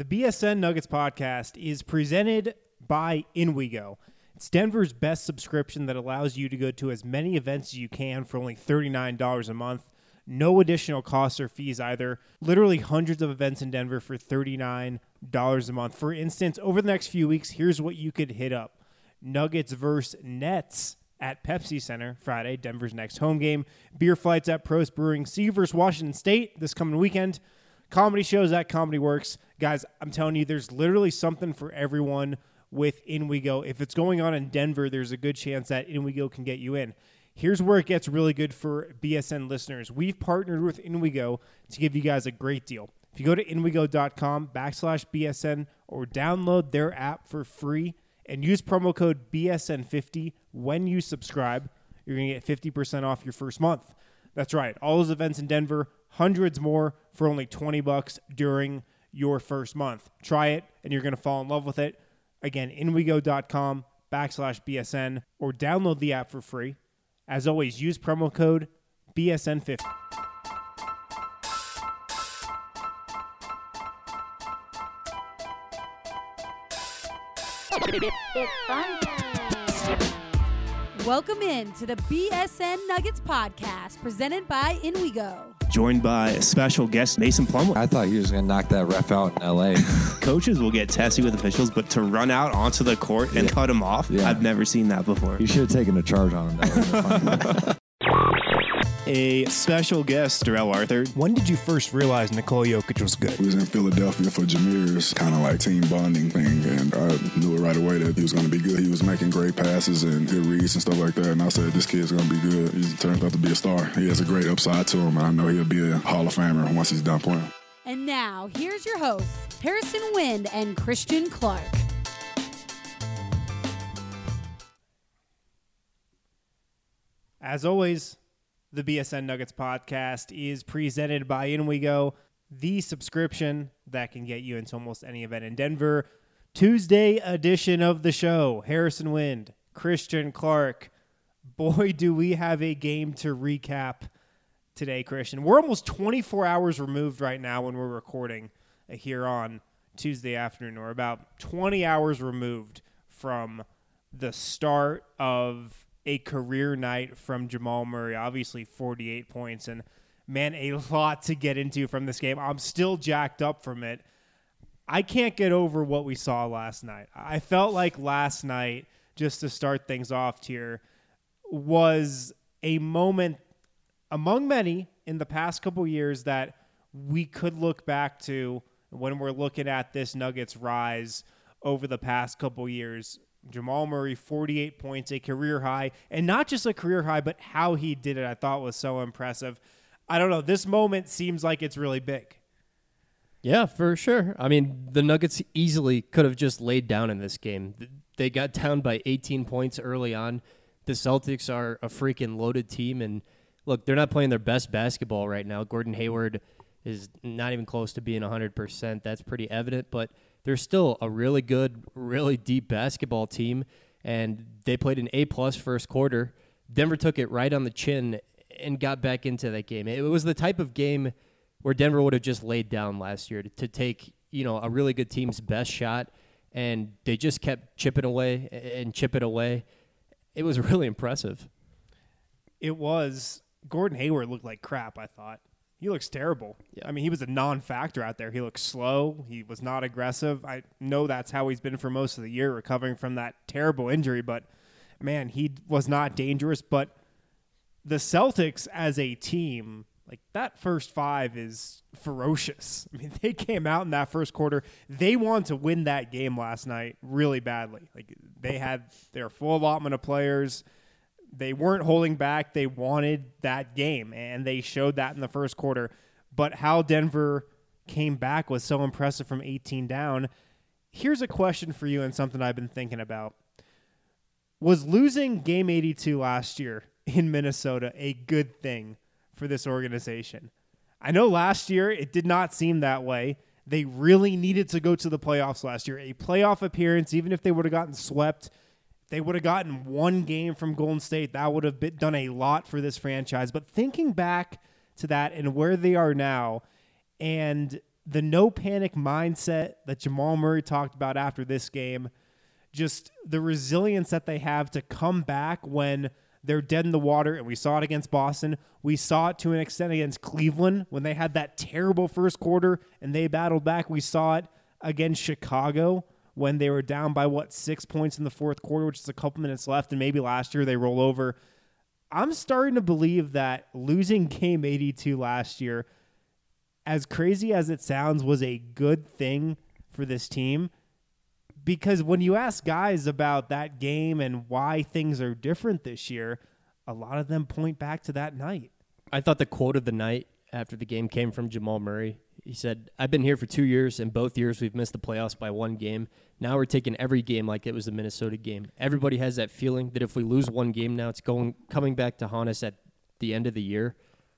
The BSN Nuggets podcast is presented by InWeGo. It's Denver's best subscription that allows you to go to as many events as you can for only $39 a month. No additional costs or fees either. Literally hundreds of events in Denver for $39 a month. For instance, over the next few weeks, here's what you could hit up. Nuggets versus Nets at Pepsi Center Friday, Denver's next home game. Beer flights at Prost Brewing. See you versus Washington State this coming weekend. Comedy shows at Comedy Works. Guys, I'm telling you, there's literally something for everyone with InWeGo. If it's going on in Denver, there's a good chance that InWeGo can get you in. Here's where it gets really good for BSN listeners. We've partnered with InWeGo to give you guys a great deal. If you go to InWeGo.com/BSN or download their app for free and use promo code BSN50 when you subscribe, you're going to get 50% off your first month. That's right. All those events in Denver, hundreds more for only $20 during your first month. Try it, and you're going to fall in love with it. Again, InWeGo.com/BSN or download the app for free. As always, use promo code BSN50. It's fun time. Welcome in to the BSN Nuggets podcast presented by InWeGo. Joined by a special guest, Mason Plumlee. I thought he was going to knock that ref out in L.A. Coaches will get testy with officials, but to run out onto the court and cut him off, I've never seen that before. You should have taken a charge on him. That A special guest, Darrell Arthur. When did you first realize Nikola Jokic was good? We was in Philadelphia for Jameer's kind of like team bonding thing, and I knew it right away that he was going to be good. He was making great passes and good reads and stuff like that, and I said, this kid's going to be good. He turned out to be a star. He has a great upside to him, and I know he'll be a Hall of Famer once he's done playing. And now, here's your hosts, Harrison Wind and Christian Clark. As always, the BSN Nuggets podcast is presented by InWeGo, the subscription that can get you into almost any event in Denver. Tuesday edition of the show. Harrison Wind, Christian Clark. Boy, do we have a game to recap today, Christian. We're almost 24 hours removed right now when we're recording here on Tuesday afternoon. We're about 20 hours removed from the start of a career night from Jamal Murray. Obviously 48 points, and man, a lot to get into from this game. I'm still jacked up from it. I can't get over what we saw last night. I felt like last night, just to start things off here, was a moment among many in the past couple years that we could look back to when we're looking at this Nuggets rise over the past couple years. Jamal Murray, 48 points, a career high, and not just a career high, but how he did it I thought was so impressive. I don't know. This moment seems like it's really big. Yeah, for sure. I mean, the Nuggets easily could have just laid down in this game. They got down by 18 points early on. The Celtics are a freaking loaded team, and look, they're not playing their best basketball right now. Gordon Hayward is not even close to being 100%. That's pretty evident, but they're still a really good, really deep basketball team, and they played an A-plus first quarter. Denver took it right on the chin and got back into that game. It was the type of game where Denver would have just laid down last year to take, a really good team's best shot, and they just kept chipping away and chipping away. It was really impressive. It was. Gordon Hayward looked like crap, I thought. He looks terrible. Yeah. I mean, he was a non-factor out there. He looked slow. He was not aggressive. I know that's how he's been for most of the year, recovering from that terrible injury. But, man, he was not dangerous. But the Celtics as a team, like that first five is ferocious. I mean, they came out in that first quarter. They wanted to win that game last night really badly. Like they had their full allotment of players. They weren't holding back. They wanted that game, and they showed that in the first quarter. But how Denver came back was so impressive from 18 down. Here's a question for you and something I've been thinking about. Was losing Game 82 last year in Minnesota a good thing for this organization? I know last year it did not seem that way. They really needed to go to the playoffs last year. A playoff appearance, even if they would have gotten swept, they would have gotten one game from Golden State. That would have done a lot for this franchise. But thinking back to that and where they are now, and the no panic mindset that Jamal Murray talked about after this game, just the resilience that they have to come back when they're dead in the water. And we saw it against Boston. We saw it to an extent against Cleveland when they had that terrible first quarter and they battled back. We saw it against Chicago when they were down by 6 points in the fourth quarter, which is a couple minutes left. And maybe last year they roll over. I'm starting to believe that losing game 82 last year, as crazy as it sounds, was a good thing for this team. Because when you ask guys about that game and why things are different this year, a lot of them point back to that night. I thought the quote of the night after the game came from Jamal Murray. He said, "I've been here for 2 years, and both years we've missed the playoffs by 1 game. Now we're taking every game like it was a Minnesota game. Everybody has that feeling that if we lose 1 game now, it's coming back to haunt us at the end of the year."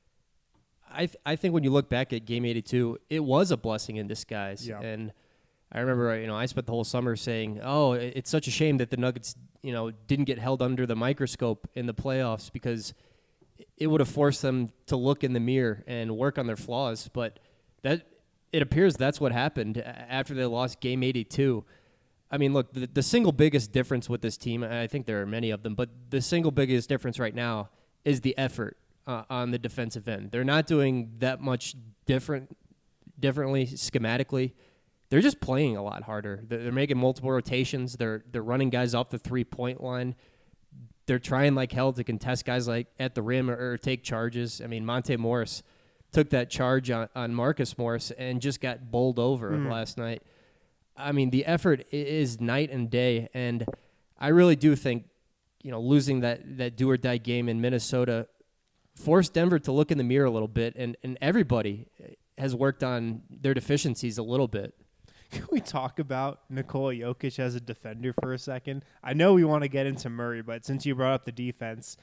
I think when you look back at Game 82, it was a blessing in disguise. Yeah. And I remember, I spent the whole summer saying, "Oh, it's such a shame that the Nuggets, didn't get held under the microscope in the playoffs because it would have forced them to look in the mirror and work on their flaws." But that it appears that's what happened after they lost Game 82. I mean, look, the single biggest difference with this team, I think there are many of them, but the single biggest difference right now is the effort on the defensive end. They're not doing that much differently schematically. They're just playing a lot harder. They're making multiple rotations. They're running guys off the 3-point line. They're trying like hell to contest guys like at the rim or take charges. I mean, Monte Morris took that charge on Marcus Morris and just got bowled over last night. I mean, the effort is night and day, and I really do think, losing that do-or-die game in Minnesota forced Denver to look in the mirror a little bit, and everybody has worked on their deficiencies a little bit. Can we talk about Nikola Jokic as a defender for a second? I know we want to get into Murray, but since you brought up the defense,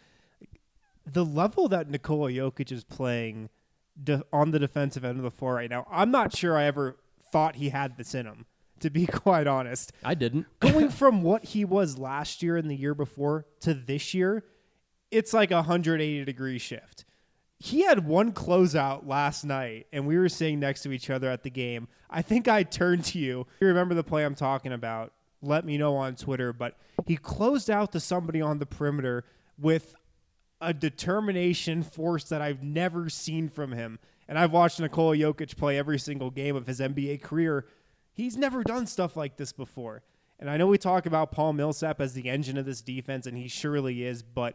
the level that Nikola Jokic is playing on the defensive end of the floor right now, I'm not sure I ever thought he had this in him, to be quite honest. I didn't. Going from what he was last year and the year before to this year, it's like a 180-degree shift. He had one closeout last night, and we were sitting next to each other at the game. I think I turned to you. You remember the play I'm talking about? Let me know on Twitter. But he closed out to somebody on the perimeter with a determination, force that I've never seen from him. And I've watched Nikola Jokic play every single game of his NBA career. He's never done stuff like this before. And I know we talk about Paul Millsap as the engine of this defense, and he surely is, but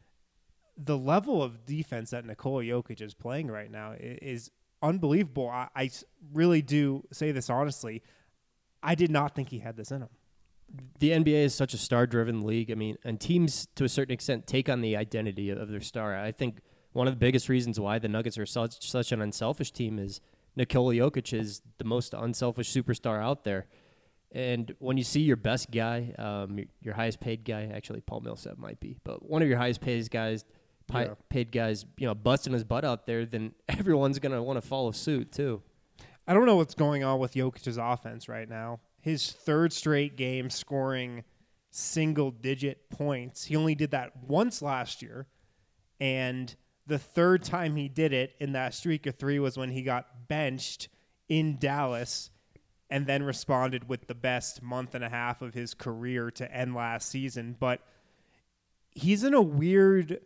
the level of defense that Nikola Jokic is playing right now is unbelievable. I really do say this honestly. I did not think he had this in him. The NBA is such a star-driven league. I mean, and teams, to a certain extent, take on the identity of their star. I think one of the biggest reasons why the Nuggets are such an unselfish team is Nikola Jokic is the most unselfish superstar out there. And when you see your best guy, your highest-paid guy, actually Paul Millsap might be, but one of your highest-paid guys, busting his butt out there, then everyone's going to want to follow suit too. I don't know what's going on with Jokic's offense right now. His third straight game scoring single-digit points. He only did that once last year, and the third time he did it in that streak of 3 was when he got benched in Dallas and then responded with the best month and a half of his career to end last season. But he's in a weird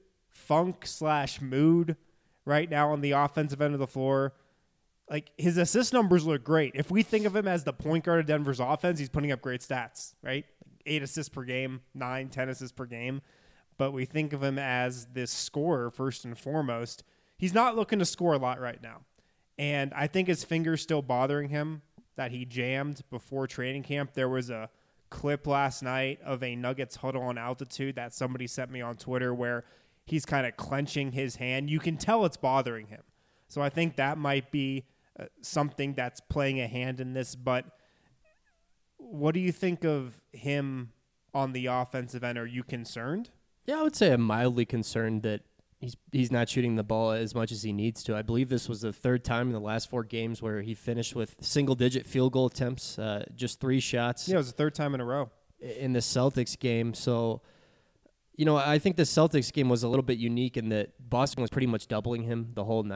funk/mood right now on the offensive end of the floor. Like, his assist numbers look great. If we think of him as the point guard of Denver's offense, he's putting up great stats, right? 8 assists per game, 9, 10 assists per game. But we think of him as this scorer first and foremost. He's not looking to score a lot right now. And I think his finger's still bothering him that he jammed before training camp. There was a clip last night of a Nuggets huddle on altitude that somebody sent me on Twitter where he's kind of clenching his hand. You can tell it's bothering him. So I think that might be something that's playing a hand in this. But what do you think of him on the offensive end? Are you concerned? Yeah, I would say I'm mildly concerned that he's not shooting the ball as much as he needs to. I believe this was the third time in the last 4 games where he finished with single-digit field goal attempts, just 3 shots. Yeah, it was the third time in a row. In the Celtics game. So, I think the Celtics game was a little bit unique in that Boston was pretty much doubling him the whole night.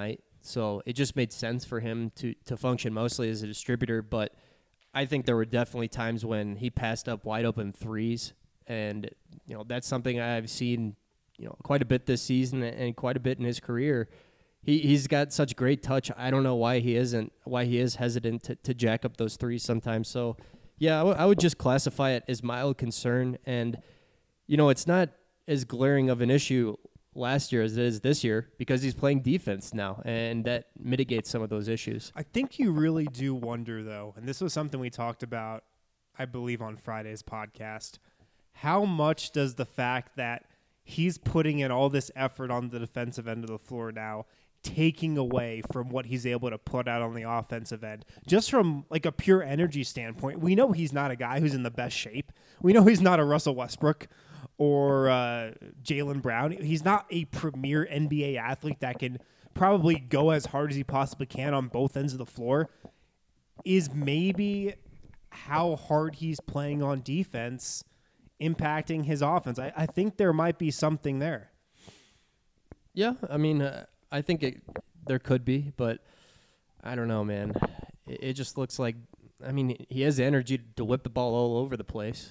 So it just made sense for him to function mostly as a distributor. But I think there were definitely times when he passed up wide open threes. And, that's something I've seen, quite a bit this season and quite a bit in his career. He's got such great touch. I don't know why he is hesitant to jack up those threes sometimes. So, yeah, I would just classify it as mild concern. And, it's not as glaring of an issue last year as it is this year because he's playing defense now, and that mitigates some of those issues. I think you really do wonder, though, and this was something we talked about, I believe, on Friday's podcast, how much does the fact that he's putting in all this effort on the defensive end of the floor now taking away from what he's able to put out on the offensive end? Just from like a pure energy standpoint, we know he's not a guy who's in the best shape. We know he's not a Russell Westbrook or Jaylen Brown. He's not a premier NBA athlete that can probably go as hard as he possibly can on both ends of the floor. Is maybe how hard he's playing on defense impacting his offense? I think there might be something there. Yeah, I mean, I think there could be, but I don't know, man. It just looks like, I mean, he has the energy to whip the ball all over the place.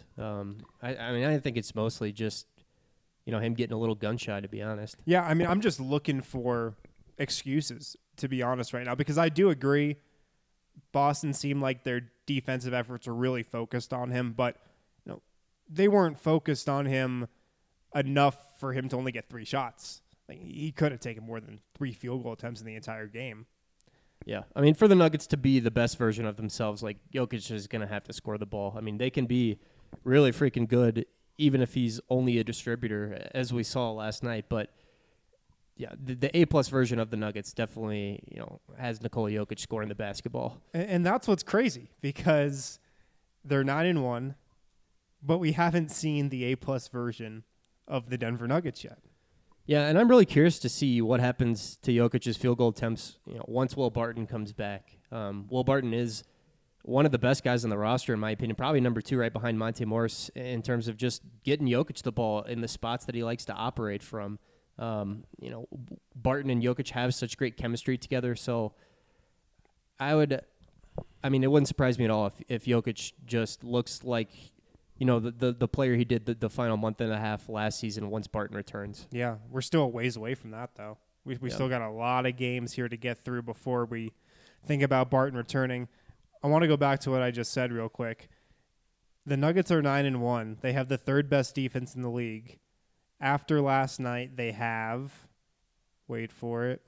I think it's mostly just, him getting a little gun shy, to be honest. Yeah, I mean, I'm just looking for excuses, to be honest, right now, because I do agree Boston seemed like their defensive efforts were really focused on him, but they weren't focused on him enough for him to only get 3 shots. Like, he could have taken more than 3 field goal attempts in the entire game. Yeah, I mean, for the Nuggets to be the best version of themselves, like, Jokic is going to have to score the ball. I mean, they can be really freaking good even if he's only a distributor, as we saw last night. But, yeah, the A-plus version of the Nuggets definitely, has Nikola Jokic scoring the basketball. And that's what's crazy, because they're 9-1, but we haven't seen the A-plus version of the Denver Nuggets yet. Yeah, and I'm really curious to see what happens to Jokic's field goal attempts, once Will Barton comes back. Will Barton is one of the best guys on the roster, in my opinion, probably number 2 right behind Monte Morris in terms of just getting Jokic the ball in the spots that he likes to operate from. Barton and Jokic have such great chemistry together, so it wouldn't surprise me at all if Jokic just looks like the player he did the final month and a half last season once Barton returns. Yeah, we're still a ways away from that, though. We still got a lot of games here to get through before we think about Barton returning. I want to go back to what I just said real quick. The Nuggets are 9-1. They have the 3rd best defense in the league. After last night, they have, wait for it,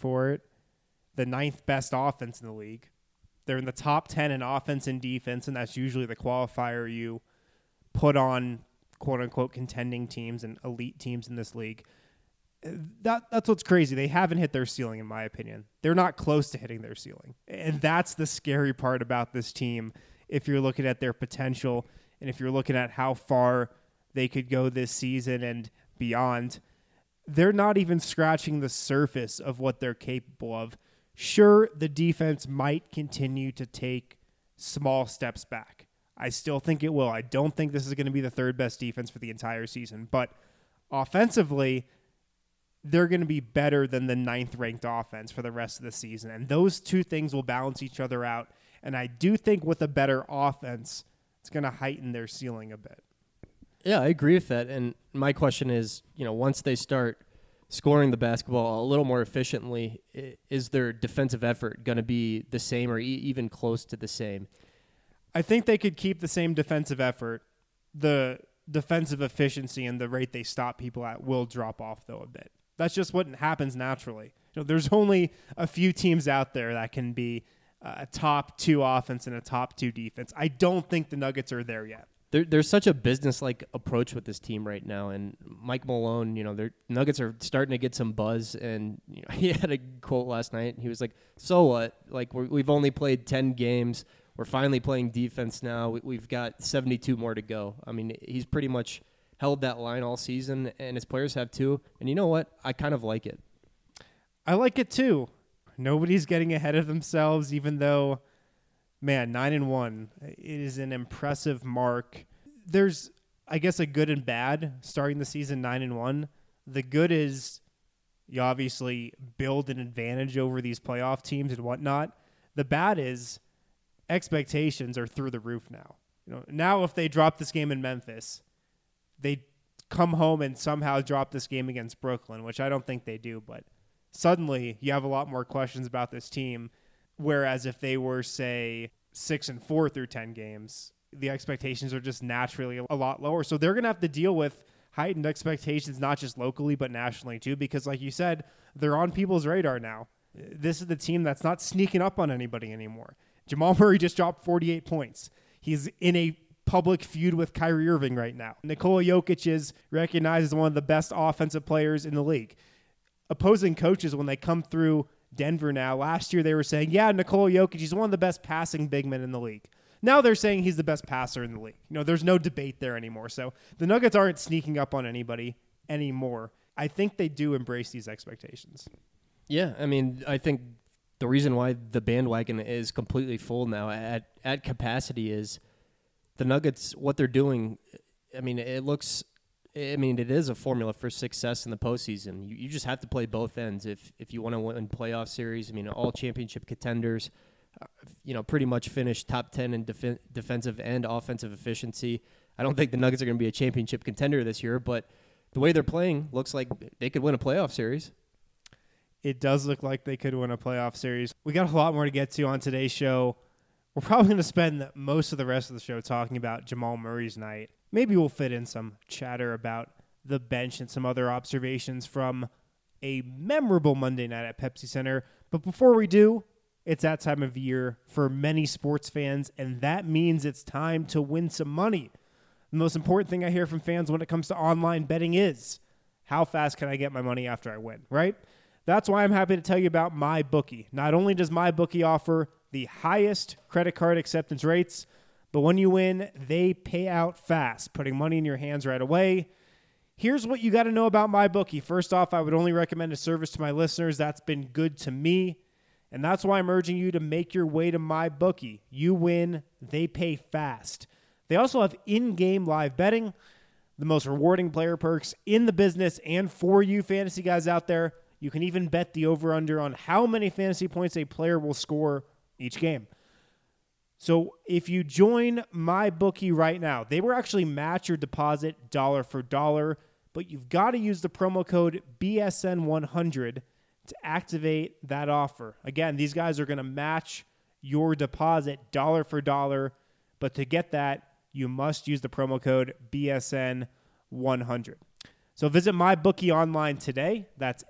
the 9th best offense in the league. They're in the top 10 in offense and defense, and that's usually the qualifier you put on quote-unquote contending teams and elite teams in this league. That's what's crazy. They haven't hit their ceiling, in my opinion. They're not close to hitting their ceiling. And that's the scary part about this team if you're looking at their potential and if you're looking at how far they could go this season and beyond. They're not even scratching the surface of what they're capable of. Sure, the defense might continue to take small steps back. I still think it will. I don't think this is going to be the 3rd best defense for the entire season. But offensively, they're going to be better than the 9th ranked offense for the rest of the season. And those two things will balance each other out. And I do think with a better offense, it's going to heighten their ceiling a bit. Yeah, I agree with that. And my question is, once they start scoring the basketball a little more efficiently, is their defensive effort going to be the same or even close to the same? I think they could keep the same defensive effort. The defensive efficiency and the rate they stop people at will drop off, though, a bit. That's just what happens naturally. There's only a few teams out there that can be a top 2 offense and a top 2 defense. I don't think the Nuggets are there yet. There's such a business-like approach with this team right now, and Mike Malone, their Nuggets are starting to get some buzz, and he had a quote last night. He was like, "So what? Like we've only played 10 games. We're finally playing defense now. We've got 72 more to go." I mean, he's pretty much held that line all season, and his players have too. And you know what? I kind of like it. I like it too. Nobody's getting ahead of themselves, even though, man, 9-1, it is an impressive mark. There's, I guess, a good and bad starting the season 9-1. The good is, You obviously build an advantage over these playoff teams and whatnot. The bad is expectations are through the roof now. Now if they drop this game in Memphis, they come home and somehow drop this game against Brooklyn, which I don't think they do, but suddenly you have a lot more questions about this team. Whereas if they were, say, 6-4 through 10 games, the expectations are just naturally a lot lower. So they're going to have to deal with heightened expectations, not just locally, but nationally too, because like you said, they're on people's radar now. This is the team that's not sneaking up on anybody anymore. Jamal Murray just dropped 48 points. He's in a public feud with Kyrie Irving right now. Nikola Jokic is recognized as one of the best offensive players in the league. Opposing coaches, when they come through Denver now, last year they were saying, yeah, Nikola Jokic, he's one of the best passing big men in the league. Now they're saying he's the best passer in the league. There's no debate there anymore. So the Nuggets aren't sneaking up on anybody anymore. I think they do embrace these expectations. Yeah, I mean, I think the reason why the bandwagon is completely full now at capacity is the Nuggets, what they're doing. I mean, it is a formula for success in the postseason. You just have to play both ends if you want to win playoff series. I mean, all championship contenders, pretty much finish top 10 in defensive and offensive efficiency. I don't think the Nuggets are going to be a championship contender this year, but the way they're playing looks like they could win a playoff series. It does look like they could win a playoff series. We got a lot more to get to on today's show. We're probably going to spend most of the rest of the show talking about Jamal Murray's night. Maybe we'll fit in some chatter about the bench and some other observations from a memorable Monday night at Pepsi Center. But before we do, it's that time of year for many sports fans, and that means it's time to win some money. The most important thing I hear from fans when it comes to online betting is, how fast can I get my money after I win, right? That's why I'm happy to tell you about MyBookie. Not only does MyBookie offer the highest credit card acceptance rates, but when you win, they pay out fast, putting money in your hands right away. Here's what you got to know about MyBookie. First off, I would only recommend a service to my listeners that's been good to me, and that's why I'm urging you to make your way to MyBookie. You win, they pay fast. They also have in-game live betting, the most rewarding player perks in the business, and for you fantasy guys out there, you can even bet the over-under on how many fantasy points a player will score each game. So if you join MyBookie right now, they will actually match your deposit dollar for dollar, but you've got to use the promo code BSN100 to activate that offer. Again, these guys are going to match your deposit dollar for dollar, but to get that, you must use the promo code BSN100. So visit MyBookie online today. That's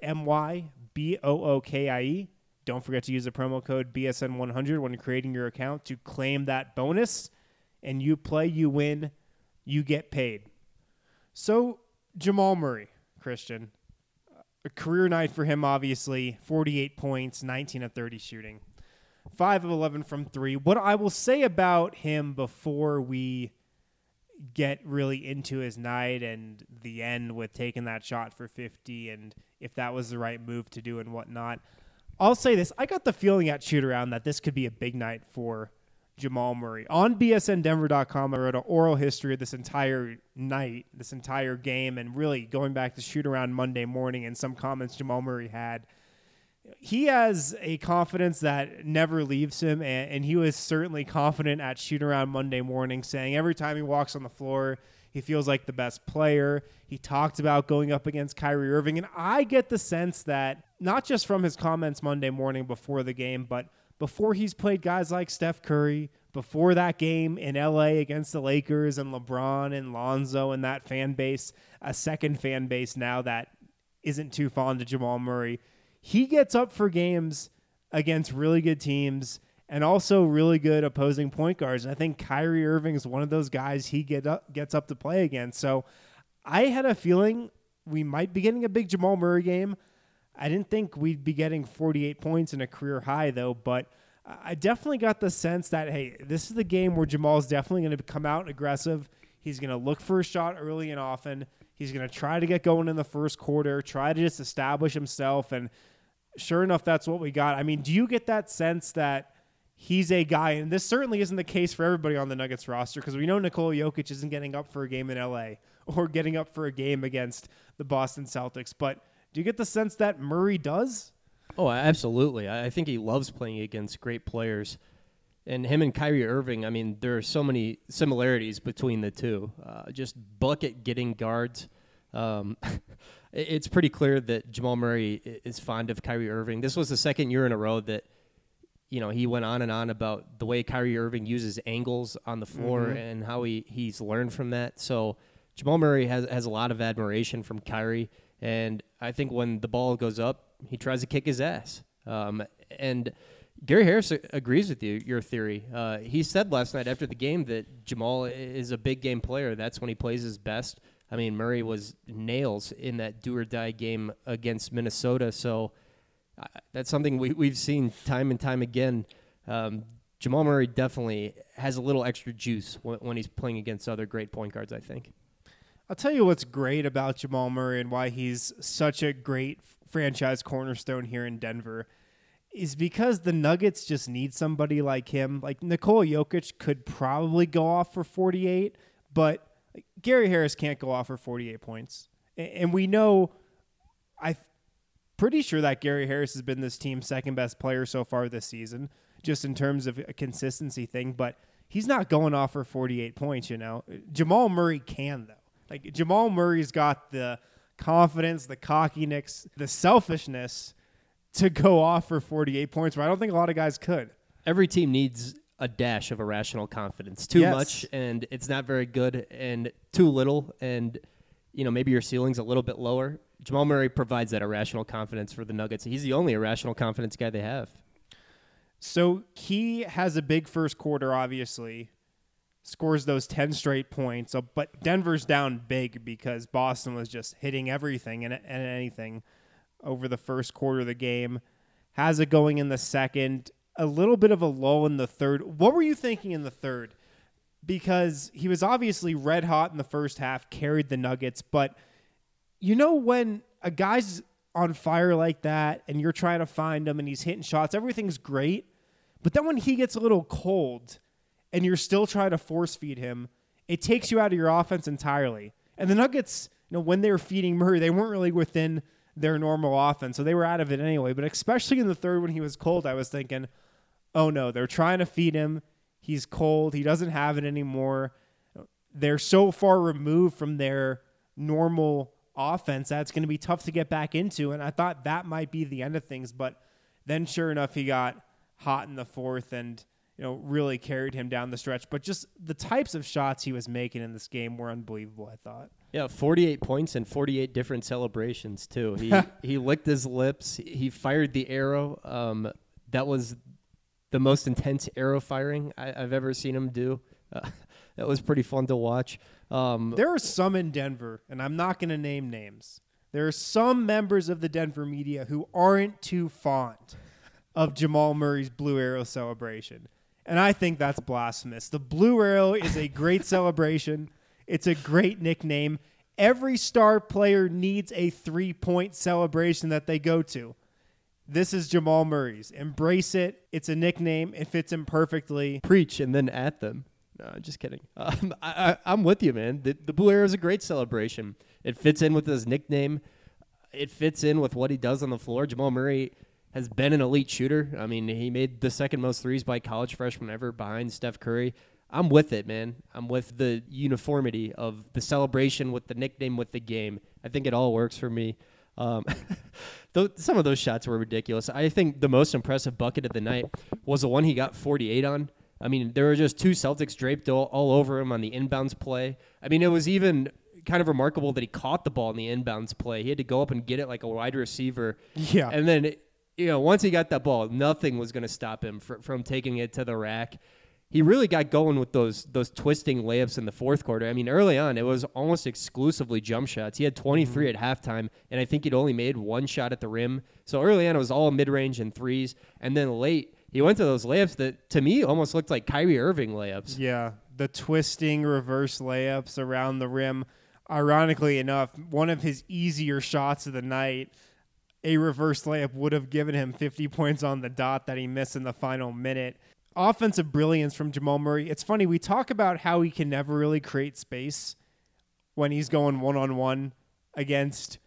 MyBookie. Don't forget to use the promo code BSN100 when creating your account to claim that bonus. And you play, you win, you get paid. So Jamal Murray, Christian, a career night for him, obviously. 48 points, 19 of 30 shooting, 5 of 11 from 3. What I will say about him before we get really into his night and the end with taking that shot for 50 and if that was the right move to do and whatnot, I'll say this. I got the feeling at shoot-around that this could be a big night for Jamal Murray. On BSNDenver.com, I wrote an oral history of this entire night, this entire game, and really going back to shoot-around Monday morning and some comments Jamal Murray had. He has a confidence that never leaves him, and he was certainly confident at shoot-around Monday morning, saying every time he walks on the floor, he feels like the best player. He talked about going up against Kyrie Irving, and I get the sense that not just from his comments Monday morning before the game, but before he's played guys like Steph Curry, before that game in LA against the Lakers and LeBron and Lonzo and that fan base, a second fan base now that isn't too fond of Jamal Murray, he gets up for games against really good teams and also really good opposing point guards. And I think Kyrie Irving is one of those guys he gets up to play against. So I had a feeling we might be getting a big Jamal Murray game. I didn't think we'd be getting 48 points in a career high, though. But I definitely got the sense that, hey, this is the game where Jamal's definitely going to come out aggressive. He's going to look for a shot early and often. He's going to try to get going in the first quarter, try to just establish himself. And sure enough, that's what we got. I mean, do you get that sense that he's a guy, and this certainly isn't the case for everybody on the Nuggets roster, because we know Nikola Jokic isn't getting up for a game in LA or getting up for a game against the Boston Celtics, but Do you get the sense that Murray does? Oh, absolutely. I think he loves playing against great players. And him and Kyrie Irving, I mean, there are so many similarities between the two. Just bucket-getting guards. It's pretty clear that Jamal Murray is fond of Kyrie Irving. This was the second year in a row that, he went on and on about the way Kyrie Irving uses angles on the floor and how he's learned from that. So Jamal Murray has a lot of admiration from Kyrie. And I think when the ball goes up, he tries to kick his ass. And Gary Harris agrees with your theory. He said last night after the game that Jamal is a big game player. That's when he plays his best. I mean, Murray was nails in that do-or-die game against Minnesota. So that's something we've seen time and time again. Jamal Murray definitely has a little extra juice when he's playing against other great point guards, I think. I'll tell you what's great about Jamal Murray and why he's such a great franchise cornerstone here in Denver is because the Nuggets just need somebody like him. Like Nikola Jokic could probably go off for 48, but Gary Harris can't go off for 48 points. And we know, I'm pretty sure that Gary Harris has been this team's second best player so far this season, just in terms of a consistency thing, but he's not going off for 48 points, Jamal Murray can, though. Like, Jamal Murray's got the confidence, the cockiness, the selfishness to go off for 48 points, where I don't think a lot of guys could. Every team needs a dash of irrational confidence. Too much, and it's not very good, and too little, and maybe your ceiling's a little bit lower. Jamal Murray provides that irrational confidence for the Nuggets. He's the only irrational confidence guy they have. So he has a big first quarter, obviously. Scores those 10 straight points. But Denver's down big because Boston was just hitting everything and anything over the first quarter of the game. Has it going in the second. A little bit of a lull in the third. What were you thinking in the third? Because he was obviously red hot in the first half, carried the Nuggets. But when a guy's on fire like that and you're trying to find him and he's hitting shots, everything's great. But then when he gets a little cold and you're still trying to force feed him, it takes you out of your offense entirely. And the Nuggets, when they were feeding Murray, they weren't really within their normal offense, so they were out of it anyway. But especially in the third when he was cold, I was thinking, oh no, they're trying to feed him. He's cold. He doesn't have it anymore. They're so far removed from their normal offense that it's going to be tough to get back into. And I thought that might be the end of things. But then sure enough, he got hot in the fourth and really carried him down the stretch. But just the types of shots he was making in this game were unbelievable, I thought. Yeah, 48 points and 48 different celebrations, too. He licked his lips. He fired the arrow. That was the most intense arrow firing I've ever seen him do. That was pretty fun to watch. There are some in Denver, and I'm not going to name names. There are some members of the Denver media who aren't too fond of Jamal Murray's Blue Arrow celebration. And I think that's blasphemous. The Blue Arrow is a great celebration. It's a great nickname. Every star player needs a 3-point celebration that they go to. This is Jamal Murray's. Embrace it. It's a nickname. It fits him perfectly. Preach and then at them. No, just kidding. I'm with you, man. The Blue Arrow is a great celebration. It fits in with his nickname. It fits in with what he does on the floor. Jamal Murray has been an elite shooter. I mean, he made the second most threes by college freshman ever behind Steph Curry. I'm with it, man. I'm with the uniformity of the celebration with the nickname with the game. I think it all works for me. Some of those shots were ridiculous. I think the most impressive bucket of the night was the one he got 48 on. I mean, there were just two Celtics draped all over him on the inbounds play. I mean, it was even kind of remarkable that he caught the ball in the inbounds play. He had to go up and get it like a wide receiver. Yeah. And then, once he got that ball, nothing was going to stop him from taking it to the rack. He really got going with those twisting layups in the fourth quarter. I mean, early on, it was almost exclusively jump shots. He had 23 at halftime, and I think he'd only made one shot at the rim. So early on, it was all mid-range and threes. And then late, he went to those layups that, to me, almost looked like Kyrie Irving layups. Yeah, the twisting reverse layups around the rim. Ironically enough, one of his easier shots of the night, a reverse layup, would have given him 50 points on the dot that he missed in the final minute. Offensive brilliance from Jamal Murray. It's funny, we talk about how he can never really create space when he's going one-on-one against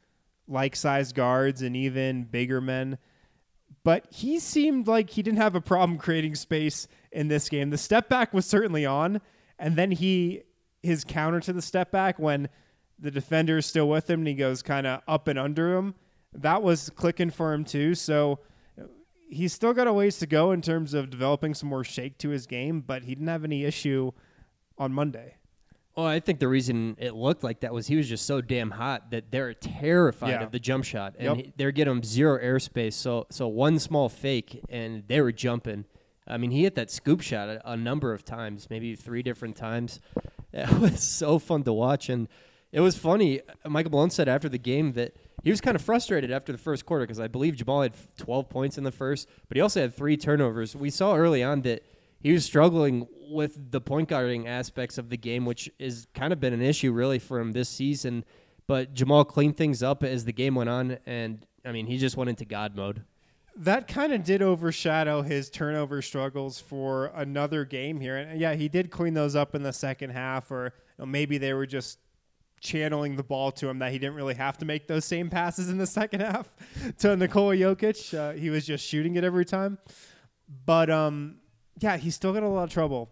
like-sized guards and even bigger men. But he seemed like he didn't have a problem creating space in this game. The step back was certainly on, and then his counter to the step back when the defender is still with him and he goes kind of up and under him, that was clicking for him too. So he's still got a ways to go in terms of developing some more shake to his game, but he didn't have any issue on Monday. Well, I think the reason it looked like that was he was just so damn hot that they're terrified of the jump shot, and they're getting him zero airspace. So one small fake, and they were jumping. I mean, he hit that scoop shot a number of times, maybe 3 different times. It was so fun to watch, and it was funny. Michael Malone said after the game that he was kind of frustrated after the first quarter because I believe Jamal had 12 points in the first, but he also had 3 turnovers. We saw early on that he was struggling with the point guarding aspects of the game, which has kind of been an issue really for him this season. But Jamal cleaned things up as the game went on, and, I mean, he just went into God mode. That kind of did overshadow his turnover struggles for another game here. And, yeah, he did clean those up in the second half, or maybe they were just channeling the ball to him that he didn't really have to make those same passes in the second half to Nikola Jokic. He was just shooting it every time. But, yeah, he's still got a lot of trouble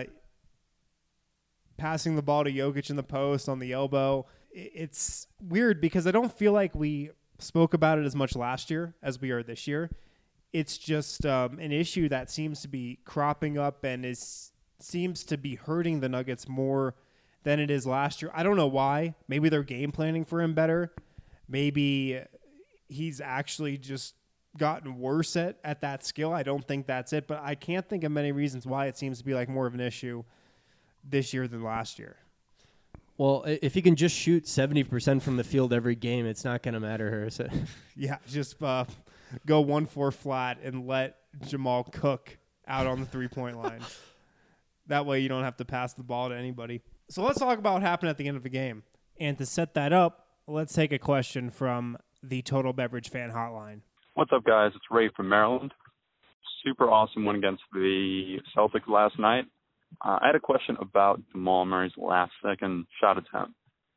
passing the ball to Jokic in the post on the elbow. It's weird because I don't feel like we spoke about it as much last year as we are this year. It's just an issue that seems to be cropping up and seems to be hurting the Nuggets more than it is last year. I don't know why. Maybe they're game planning for him better. Maybe he's actually just gotten worse at that skill. I don't think that's it, but I can't think of many reasons why it seems to be like more of an issue this year than last year. Well, if he can just shoot 70% from the field every game, it's not going to matter here, is it? Yeah, just go 1-4 flat and let Jamal cook out on the three-point line. That way you don't have to pass the ball to anybody. So let's talk about what happened at the end of the game. And to set that up, let's take a question from the Total Beverage Fan Hotline. What's up, guys? It's Ray from Maryland. Super awesome win against the Celtics last night. I had a question about Jamal Murray's last-second shot attempt.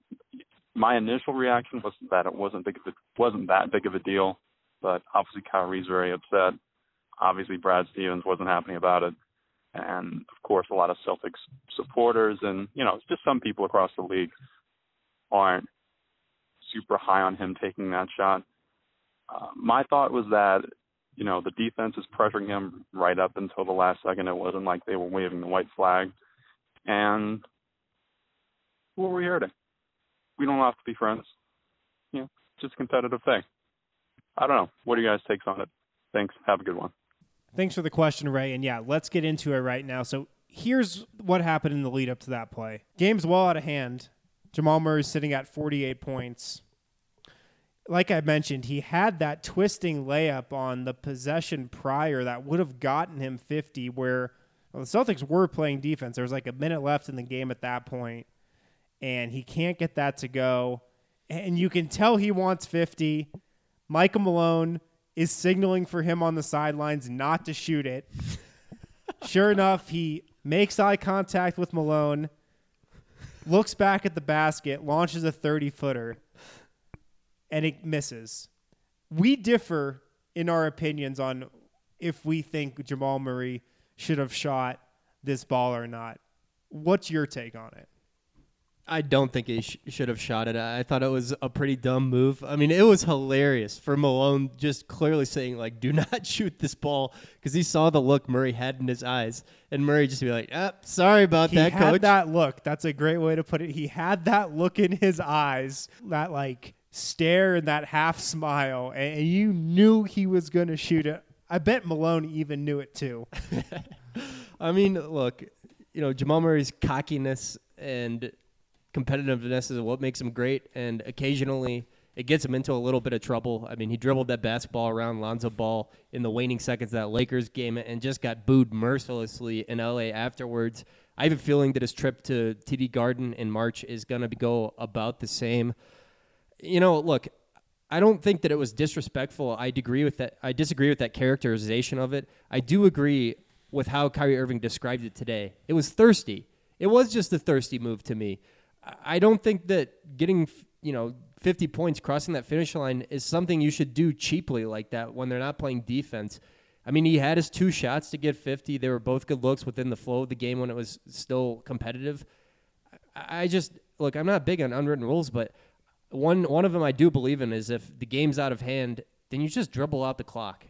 My initial reaction was that it wasn't that big of a deal, but obviously Kyrie's very upset. Obviously Brad Stevens wasn't happy about it, and of course a lot of Celtics supporters and just some people across the league aren't super high on him taking that shot. My thought was that the defense is pressuring him right up until the last second. It wasn't like they were waving the white flag. And what were we hurting? We don't have to be friends. Just a competitive thing. I don't know. What are you guys' takes on it? Thanks. Have a good one. Thanks for the question, Ray. And yeah, let's get into it right now. So here's what happened in the lead up to that play. Game's well out of hand. Jamal Murray's sitting at 48 points. Like I mentioned, he had that twisting layup on the possession prior that would have gotten him 50 where the Celtics were playing defense. There was like a minute left in the game at that point, and he can't get that to go. And you can tell he wants 50. Michael Malone is signaling for him on the sidelines not to shoot it. Sure enough, he makes eye contact with Malone, looks back at the basket, launches a 30-footer. And it misses. We differ in our opinions on if we think Jamal Murray should have shot this ball or not. What's your take on it? I don't think he should have shot it. I thought it was a pretty dumb move. I mean, it was hilarious for Malone just clearly saying, do not shoot this ball because he saw the look Murray had in his eyes. And Murray just be like, sorry about that, coach. He had that look. That's a great way to put it. He had that look in his eyes, that stare and that half smile, and you knew he was going to shoot it. I bet Malone even knew it too. I mean, look, Jamal Murray's cockiness and competitiveness is what makes him great, and occasionally it gets him into a little bit of trouble. I mean, he dribbled that basketball around Lonzo Ball in the waning seconds of that Lakers game and just got booed mercilessly in LA afterwards. I have a feeling that his trip to TD Garden in March is going to go about the same. Look, I don't think that it was disrespectful. I disagree with that characterization of it. I do agree with how Kyrie Irving described it today. It was thirsty. It was just a thirsty move to me. I don't think that getting, 50 points crossing that finish line is something you should do cheaply like that when they're not playing defense. I mean, he had his 2 shots to get 50. They were both good looks within the flow of the game when it was still competitive. Look, I'm not big on unwritten rules, but one of them I do believe in is if the game's out of hand, then you just dribble out the clock.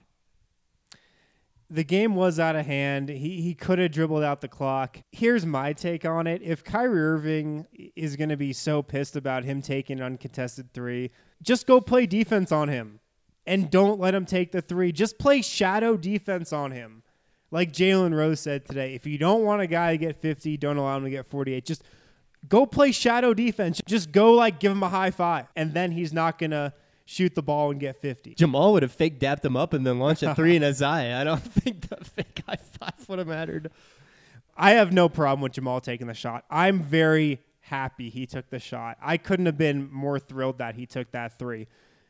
The game was out of hand. He could have dribbled out the clock. Here's my take on it. If Kyrie Irving is going to be so pissed about him taking an uncontested 3, just go play defense on him and don't let him take the 3. Just play shadow defense on him. Like Jalen Rose said today, if you don't want a guy to get 50, don't allow him to get 48. Just go play shadow defense. Just go give him a high five, and then he's not going to shoot the ball and get 50. Jamal would have fake dapped him up and then launched a 3 in his eye. I don't think the fake high five would have mattered. I have no problem with Jamal taking the shot. I'm very happy he took the shot. I couldn't have been more thrilled that he took that 3.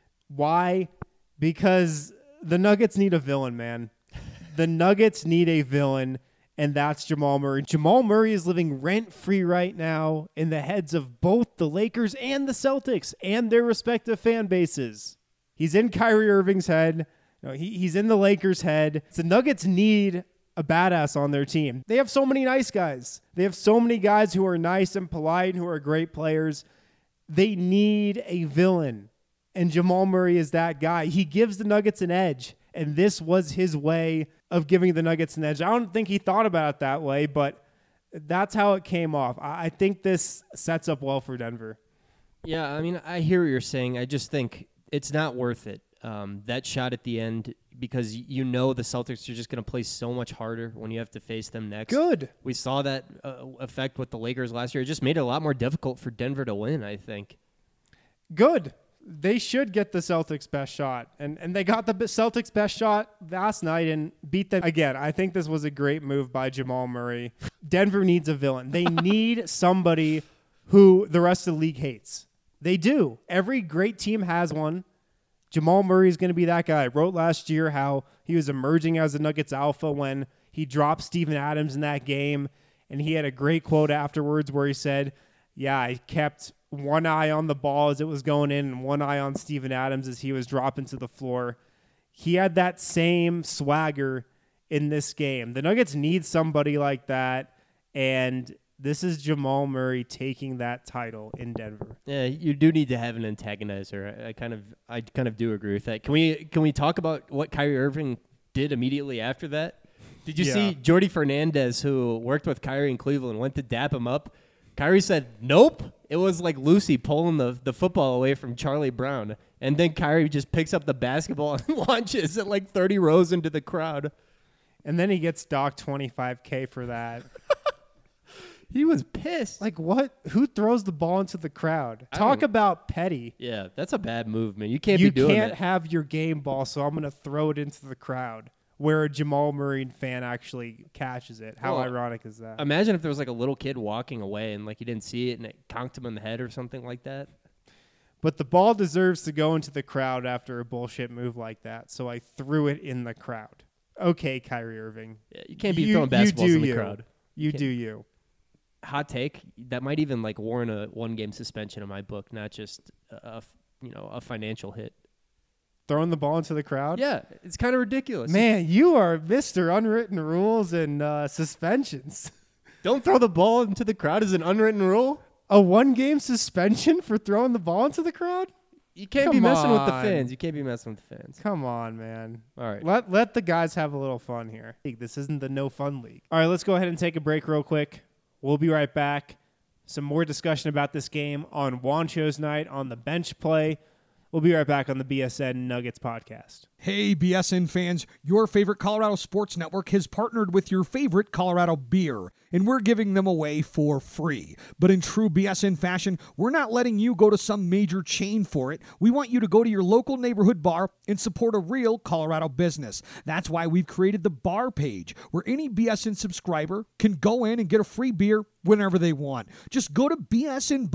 Why? Because the Nuggets need a villain, man. The Nuggets need a villain, and that's Jamal Murray. Jamal Murray is living rent-free right now in the heads of both the Lakers and the Celtics and their respective fan bases. He's in Kyrie Irving's head. He's in the Lakers' head. The Nuggets need a badass on their team. They have so many nice guys. They have so many guys who are nice and polite and who are great players. They need a villain, and Jamal Murray is that guy. He gives the Nuggets an edge, and this was his way of giving the Nuggets an edge. I don't think he thought about it that way, but that's how it came off. I think this sets up well for Denver. Yeah, I mean, I hear what you're saying. I just think it's not worth it. That shot at the end, because the Celtics are just going to play so much harder when you have to face them next. Good. We saw that effect with the Lakers last year. It just made it a lot more difficult for Denver to win, I think. Good. They should get the Celtics' best shot. And they got the Celtics' best shot last night and beat them again. I think this was a great move by Jamal Murray. Denver needs a villain. They need somebody who the rest of the league hates. They do. Every great team has one. Jamal Murray is going to be that guy. I wrote last year how he was emerging as the Nuggets alpha when he dropped Steven Adams in that game. And he had a great quote afterwards where he said, yeah, I kept one eye on the ball as it was going in and one eye on Steven Adams as he was dropping to the floor. He had that same swagger in this game. The Nuggets need somebody like that, and this is Jamal Murray taking that title in Denver. Yeah, you do need to have an antagonizer. I kind of do agree with that. Can we talk about what Kyrie Irving did immediately after that? Did you see Jordy Fernandez, who worked with Kyrie in Cleveland, went to dap him up? Kyrie said, nope. It was like Lucy pulling the football away from Charlie Brown. And then Kyrie just picks up the basketball and launches it 30 rows into the crowd. And then he gets docked $25K for that. He was pissed. What? Who throws the ball into the crowd? Talk about petty. Yeah, that's a bad move, man. You can't be doing that. You can't have your game ball, so I'm going to throw it into the crowd. Where a Jamal Murray fan actually catches it. How ironic is that? Imagine if there was a little kid walking away and he didn't see it and it conked him in the head or something like that. But the ball deserves to go into the crowd after a bullshit move like that, so I threw it in the crowd. Okay, Kyrie Irving. Yeah, you can't be throwing basketballs in the crowd. You do you. Hot take. That might even warrant a 1-game suspension in my book, not just a financial hit. Throwing the ball into the crowd? Yeah, it's kind of ridiculous. Man, you are Mr. Unwritten Rules and suspensions. Don't throw the ball into the crowd is an unwritten rule? A 1-game suspension for throwing the ball into the crowd? You can't be messing with the fans. You can't be messing with the fans. Come on, man. All right. Let the guys have a little fun here. This isn't the no fun league. All right, let's go ahead and take a break real quick. We'll be right back. Some more discussion about this game on Juancho's night on the bench play. We'll be right back on the BSN Nuggets podcast. Hey, BSN fans, your favorite Colorado Sports Network has partnered with your favorite Colorado beer, and we're giving them away for free. But in true BSN fashion, we're not letting you go to some major chain for it. We want you to go to your local neighborhood bar and support a real Colorado business. That's why we've created the bar page, where any BSN subscriber can go in and get a free beer whenever they want. Just go to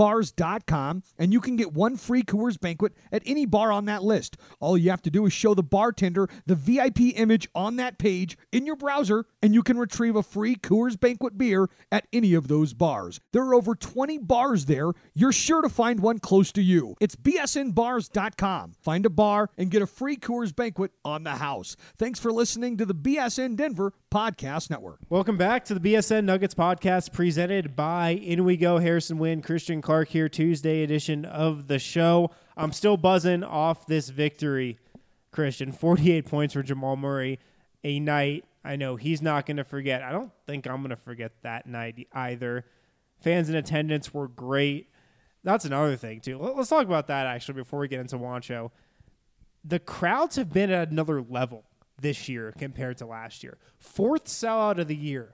bsnbars.com, and you can get 1 free Coors Banquet at any bar on that list. All you have to do is show the bartender the VIP image on that page in your browser, and you can retrieve a free Coors Banquet beer at any of those bars. There are over 20 bars there. You're sure to find one close to you. It's bsnbars.com. Find a bar and get a free Coors Banquet on the house. Thanks for listening to the BSN Denver Podcast Network. Welcome back to the BSN Nuggets podcast presented by In We Go. Harrison Wind, Christian Clark here, Tuesday edition of the show. I'm still buzzing off this victory, Christian. 48 points for Jamal Murray, a night I know he's not going to forget. I don't think I'm going to forget that night either. Fans in attendance were great. That's another thing, too. Let's talk about that, actually, before we get into Juancho. The crowds have been at another level this year compared to last year. Fourth sellout of the year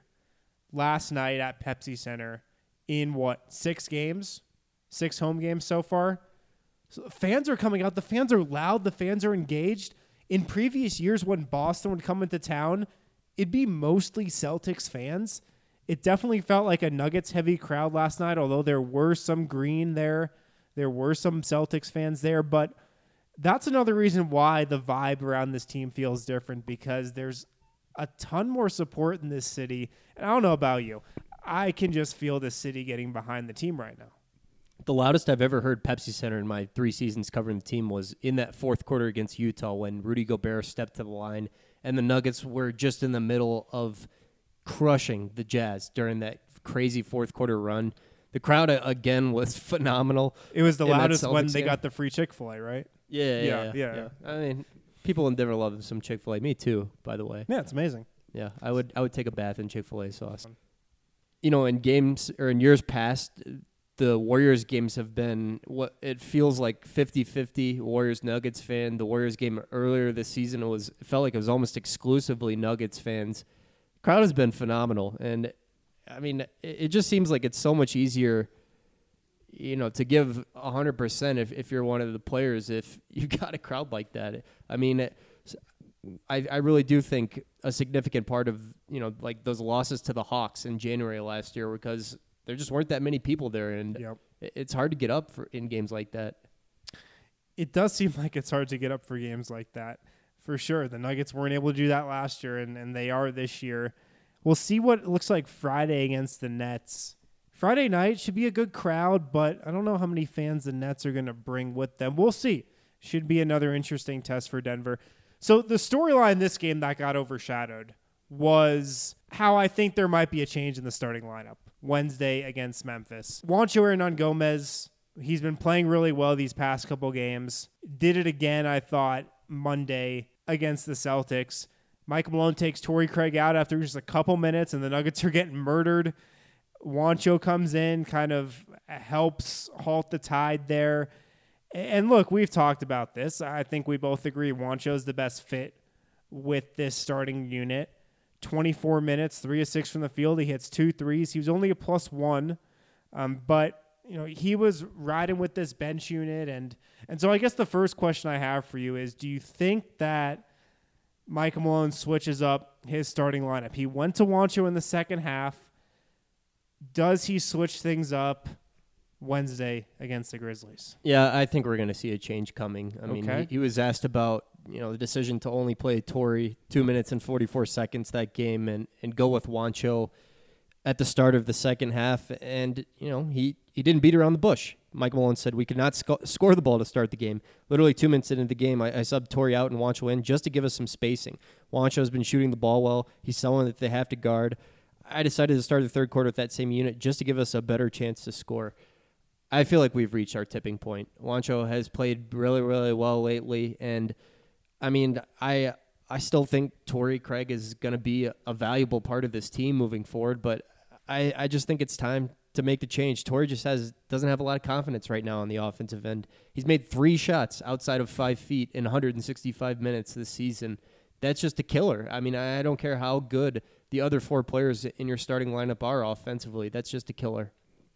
last night at Pepsi Center in, 6 games? 6 home games so far? So fans are coming out. The fans are loud. The fans are engaged. In previous years when Boston would come into town, it'd be mostly Celtics fans. It definitely felt like a Nuggets-heavy crowd last night, although there were some green there. There were some Celtics fans there. But that's another reason why the vibe around this team feels different, because there's a ton more support in this city. And I don't know about you. I can just feel the city getting behind the team right now. The loudest I've ever heard Pepsi Center in my 3 seasons covering the team was in that fourth quarter against Utah when Rudy Gobert stepped to the line and the Nuggets were just in the middle of crushing the Jazz during that crazy fourth quarter run. The crowd, again, was phenomenal. It was the loudest when they got the free Chick-fil-A, right? Yeah. I mean, people in Denver love some Chick-fil-A. Me too, by the way. Yeah, it's amazing. Yeah, I would take a bath in Chick-fil-A sauce. You know, in games or in years past, the Warriors games have been what it feels like 50-50 Warriors-Nuggets fan. The Warriors game earlier this season it felt like it was almost exclusively Nuggets fans. Crowd has been phenomenal. And, I mean, it just seems like it's so much easier, you know, to give 100% if you're one of the players if you got a crowd like that. I mean, I really do think a significant part of, you know, like those losses to the Hawks in January last year because there just weren't that many people there, and it's hard to get up in games like that. It does seem like it's hard to get up for games like that, for sure. The Nuggets weren't able to do that last year, and they are this year. We'll see what it looks like Friday against the Nets. Friday night should be a good crowd, but I don't know how many fans the Nets are going to bring with them. We'll see. Should be another interesting test for Denver. So the storyline in this game that got overshadowed was how I think there might be a change in the starting lineup Wednesday against Memphis. Juancho Hernangomez, he's been playing really well these past couple games. Did it again, I thought, Monday against the Celtics. Michael Malone takes Torrey Craig out after just a couple minutes, and the Nuggets are getting murdered. Juancho comes in, kind of helps halt the tide there. And look, we've talked about this. I think we both agree Juancho's the best fit with this starting unit. 24 minutes, 3 of 6 from the field. He hits 2 threes. He was only a +1, but you know he was riding with this bench unit, and so I guess the first question I have for you is: do you think that Michael Malone switches up his starting lineup? He went to Juancho in the second half. Does he switch things up Wednesday against the Grizzlies? Yeah, I think we're going to see a change coming. I mean, he was asked about the decision to only play Torrey 2 minutes and 44 seconds that game and go with Juancho at the start of the second half. And, he didn't beat around the bush. Mike Malone said we could not score the ball to start the game. Literally 2 minutes into the game, I subbed Torrey out and Juancho in just to give us some spacing. Juancho's been shooting the ball well. He's someone that they have to guard. I decided to start the third quarter with that same unit just to give us a better chance to score. I feel like we've reached our tipping point. Juancho has played really, really well lately, and I mean, I still think Torrey Craig is going to be a valuable part of this team moving forward, but I just think it's time to make the change. Torrey just doesn't have a lot of confidence right now on the offensive end. He's made 3 shots outside of 5 feet in 165 minutes this season. That's just a killer. I mean, I don't care how good the other 4 players in your starting lineup are offensively. That's just a killer.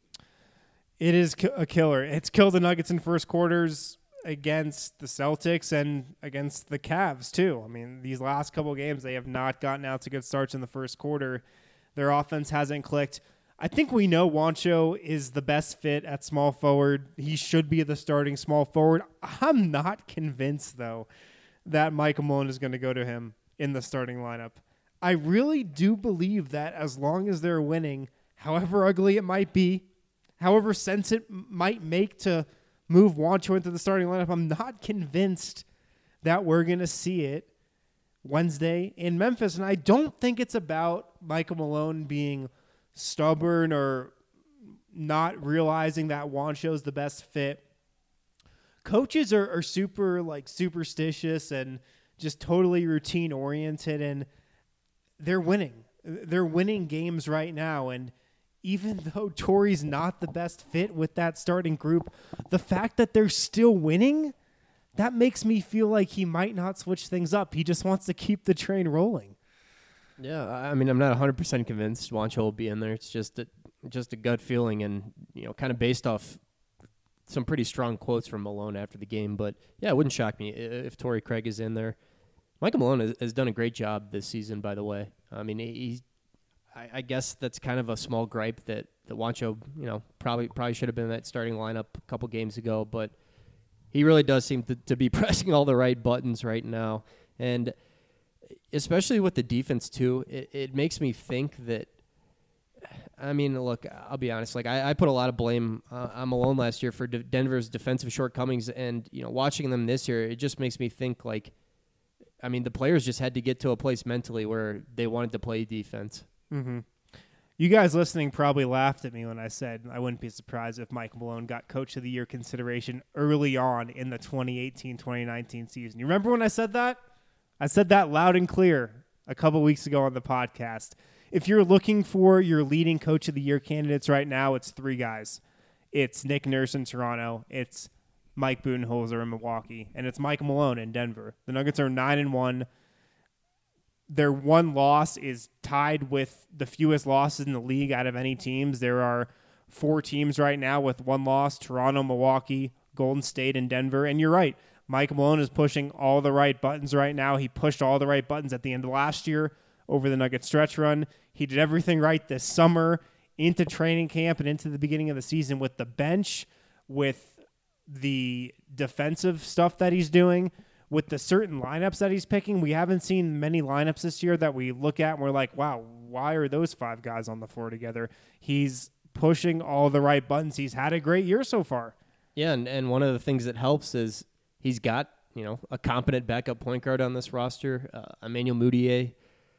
It is a killer. It's killed the Nuggets in first quarters against the Celtics and against the Cavs, too. I mean, these last couple of games, they have not gotten out to good starts in the first quarter. Their offense hasn't clicked. I think we know Juancho is the best fit at small forward. He should be the starting small forward. I'm not convinced, though, that Michael Malone is going to go to him in the starting lineup. I really do believe that as long as they're winning, however ugly it might be, however sense it might make to move Juancho into the starting lineup, I'm not convinced that we're going to see it Wednesday in Memphis. And I don't think it's about Michael Malone being stubborn or not realizing that Juancho's the best fit. Coaches are super superstitious and just totally routine oriented, and they're winning. They're winning games right now. And even though Torrey's not the best fit with that starting group, the fact that they're still winning, that makes me feel like he might not switch things up. He just wants to keep the train rolling. Yeah, I mean, I'm not 100% convinced Juancho will be in there. It's just a gut feeling, and kind of based off some pretty strong quotes from Malone after the game. But yeah, it wouldn't shock me if Torrey Craig is in there. Michael Malone has done a great job this season, by the way. I mean, I guess that's kind of a small gripe that Juancho, probably should have been in that starting lineup a couple games ago, but he really does seem to be pressing all the right buttons right now. And especially with the defense, too, it makes me think that, I mean, look, I'll be honest. Like, I put a lot of blame on Malone last year for Denver's defensive shortcomings, and, watching them this year, it just makes me think, like, I mean, the players just had to get to a place mentally where they wanted to play defense. Mm-hmm. You guys listening probably laughed at me when I said I wouldn't be surprised if Mike Malone got Coach of the Year consideration early on in the 2018-2019 season. You remember when I said that? I said that loud and clear a couple weeks ago on the podcast. If you're looking for your leading Coach of the Year candidates right now, it's three guys. It's Nick Nurse in Toronto. It's Mike Budenholzer in Milwaukee. And it's Mike Malone in Denver. The Nuggets are 9-1. Their one loss is tied with the fewest losses in the league out of any teams. There are 4 teams right now with one loss: Toronto, Milwaukee, Golden State, and Denver. And you're right. Mike Malone is pushing all the right buttons right now. He pushed all the right buttons at the end of last year over the Nuggets stretch run. He did everything right this summer into training camp and into the beginning of the season with the bench, with the defensive stuff that he's doing, with the certain lineups that he's picking. We haven't seen many lineups this year that we look at and we're like, wow, why are those 5 guys on the floor together? He's pushing all the right buttons. He's had a great year so far. Yeah, and one of the things that helps is he's got, a competent backup point guard on this roster. Emmanuel Mudiay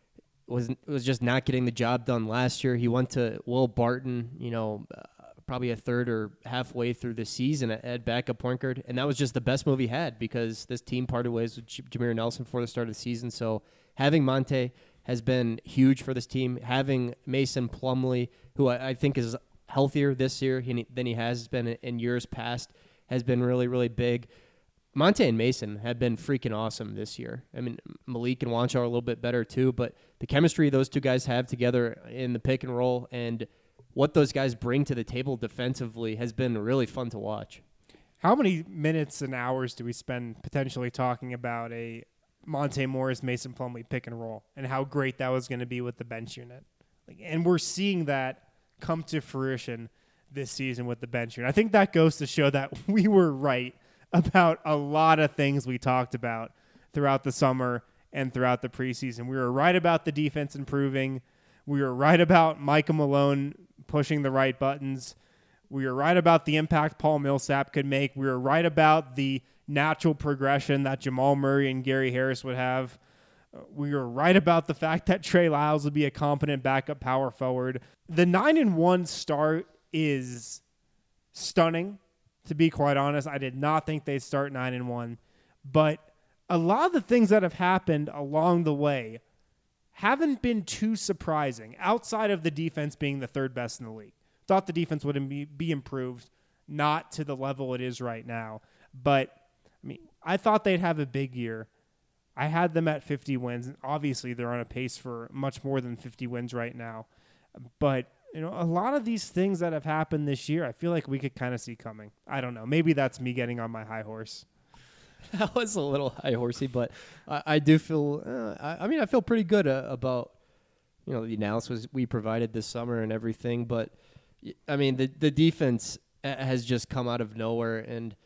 was just not getting the job done last year. He went to Will Barton, probably a third or halfway through the season at backup point guard, and that was just the best move he had because this team parted ways with Jameer Nelson before the start of the season. So having Monte has been huge for this team. Having Mason Plumlee, who I think is healthier this year than he has been in years past, has been really, really big. Monte and Mason have been freaking awesome this year. I mean, Malik and Juancho are a little bit better too, but the chemistry those two guys have together in the pick and roll and what those guys bring to the table defensively has been really fun to watch. How many minutes and hours do we spend potentially talking about a Monte Morris, Mason Plumlee pick and roll and how great that was going to be with the bench unit? And we're seeing that come to fruition this season with the bench unit. I think that goes to show that we were right about a lot of things we talked about throughout the summer and throughout the preseason. We were right about the defense improving. We were right about Michael Malone pushing the right buttons. We were right about the impact Paul Millsap could make. We were right about the natural progression that Jamal Murray and Gary Harris would have. We were right about the fact that Trey Lyles would be a competent backup power forward. The 9-1 start is stunning. To be quite honest, I did not think they'd start 9-1, but a lot of the things that have happened along the way haven't been too surprising outside of the defense being the third best in the league. Thought the defense would be improved, not to the level it is right now, but I mean, I thought they'd have a big year. I had them at 50 wins. Obviously, they're on a pace for much more than 50 wins right now, but a lot of these things that have happened this year, I feel like we could kind of see coming. I don't know. Maybe that's me getting on my high horse. That was a little high horsey, but I do feel. I feel pretty good about the analysis we provided this summer and everything. But I mean, the defense has just come out of nowhere, and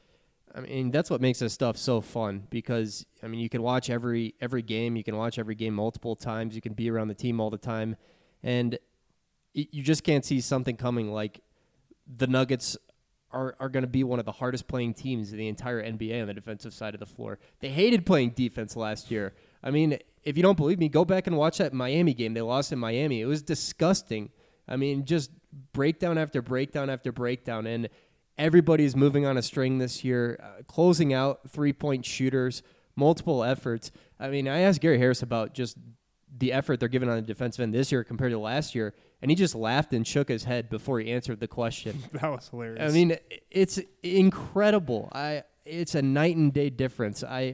I mean, that's what makes this stuff so fun because, I mean, you can watch every game. You can watch every game multiple times. You can be around the team all the time. And you just can't see something coming like the Nuggets are going to be one of the hardest playing teams in the entire NBA on the defensive side of the floor. They hated playing defense last year. I mean, if you don't believe me, go back and watch that Miami game. They lost in Miami. It was disgusting. I mean, just breakdown after breakdown after breakdown. And everybody's moving on a string this year, closing out three-point shooters, multiple efforts. I mean, I asked Gary Harris about just the effort they're giving on the defensive end this year compared to last year, and he just laughed and shook his head before he answered the question. That was hilarious. I mean, it's incredible. It's a night and day difference. I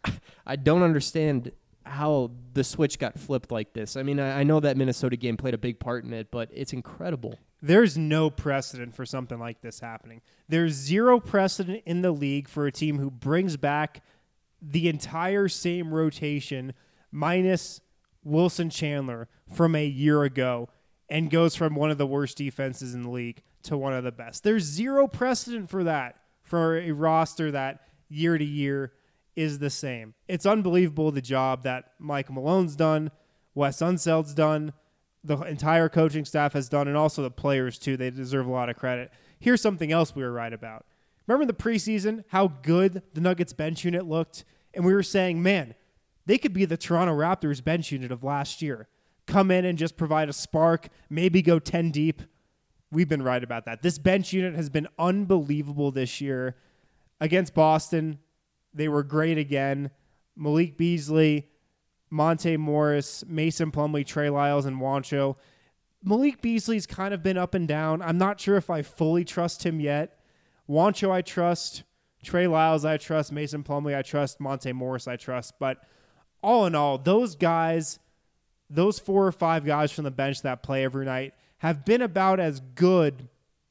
don't understand how the switch got flipped like this. I mean, I know that Minnesota game played a big part in it, but it's incredible. There's no precedent for something like this happening. There's zero precedent in the league for a team who brings back the entire same rotation minus Wilson Chandler from a year ago and goes from one of the worst defenses in the league to one of the best. There's zero precedent for that, for a roster that year to year is the same. It's unbelievable the job that Mike Malone's done, Wes Unseld's done, the entire coaching staff has done, and also the players too. They deserve a lot of credit. Here's something else we were right about. Remember in the preseason how good the Nuggets bench unit looked? And we were saying, man, they could be the Toronto Raptors bench unit of last year. Come in and just provide a spark, maybe go 10 deep. We've been right about that. This bench unit has been unbelievable this year. Against Boston, they were great again. Malik Beasley, Monte Morris, Mason Plumlee, Trey Lyles, and Juancho. Malik Beasley's kind of been up and down. I'm not sure if I fully trust him yet. Juancho I trust. Trey Lyles I trust. Mason Plumlee I trust. Monte Morris I trust. But all in all, those guys, those 4 or 5 guys from the bench that play every night have been about as good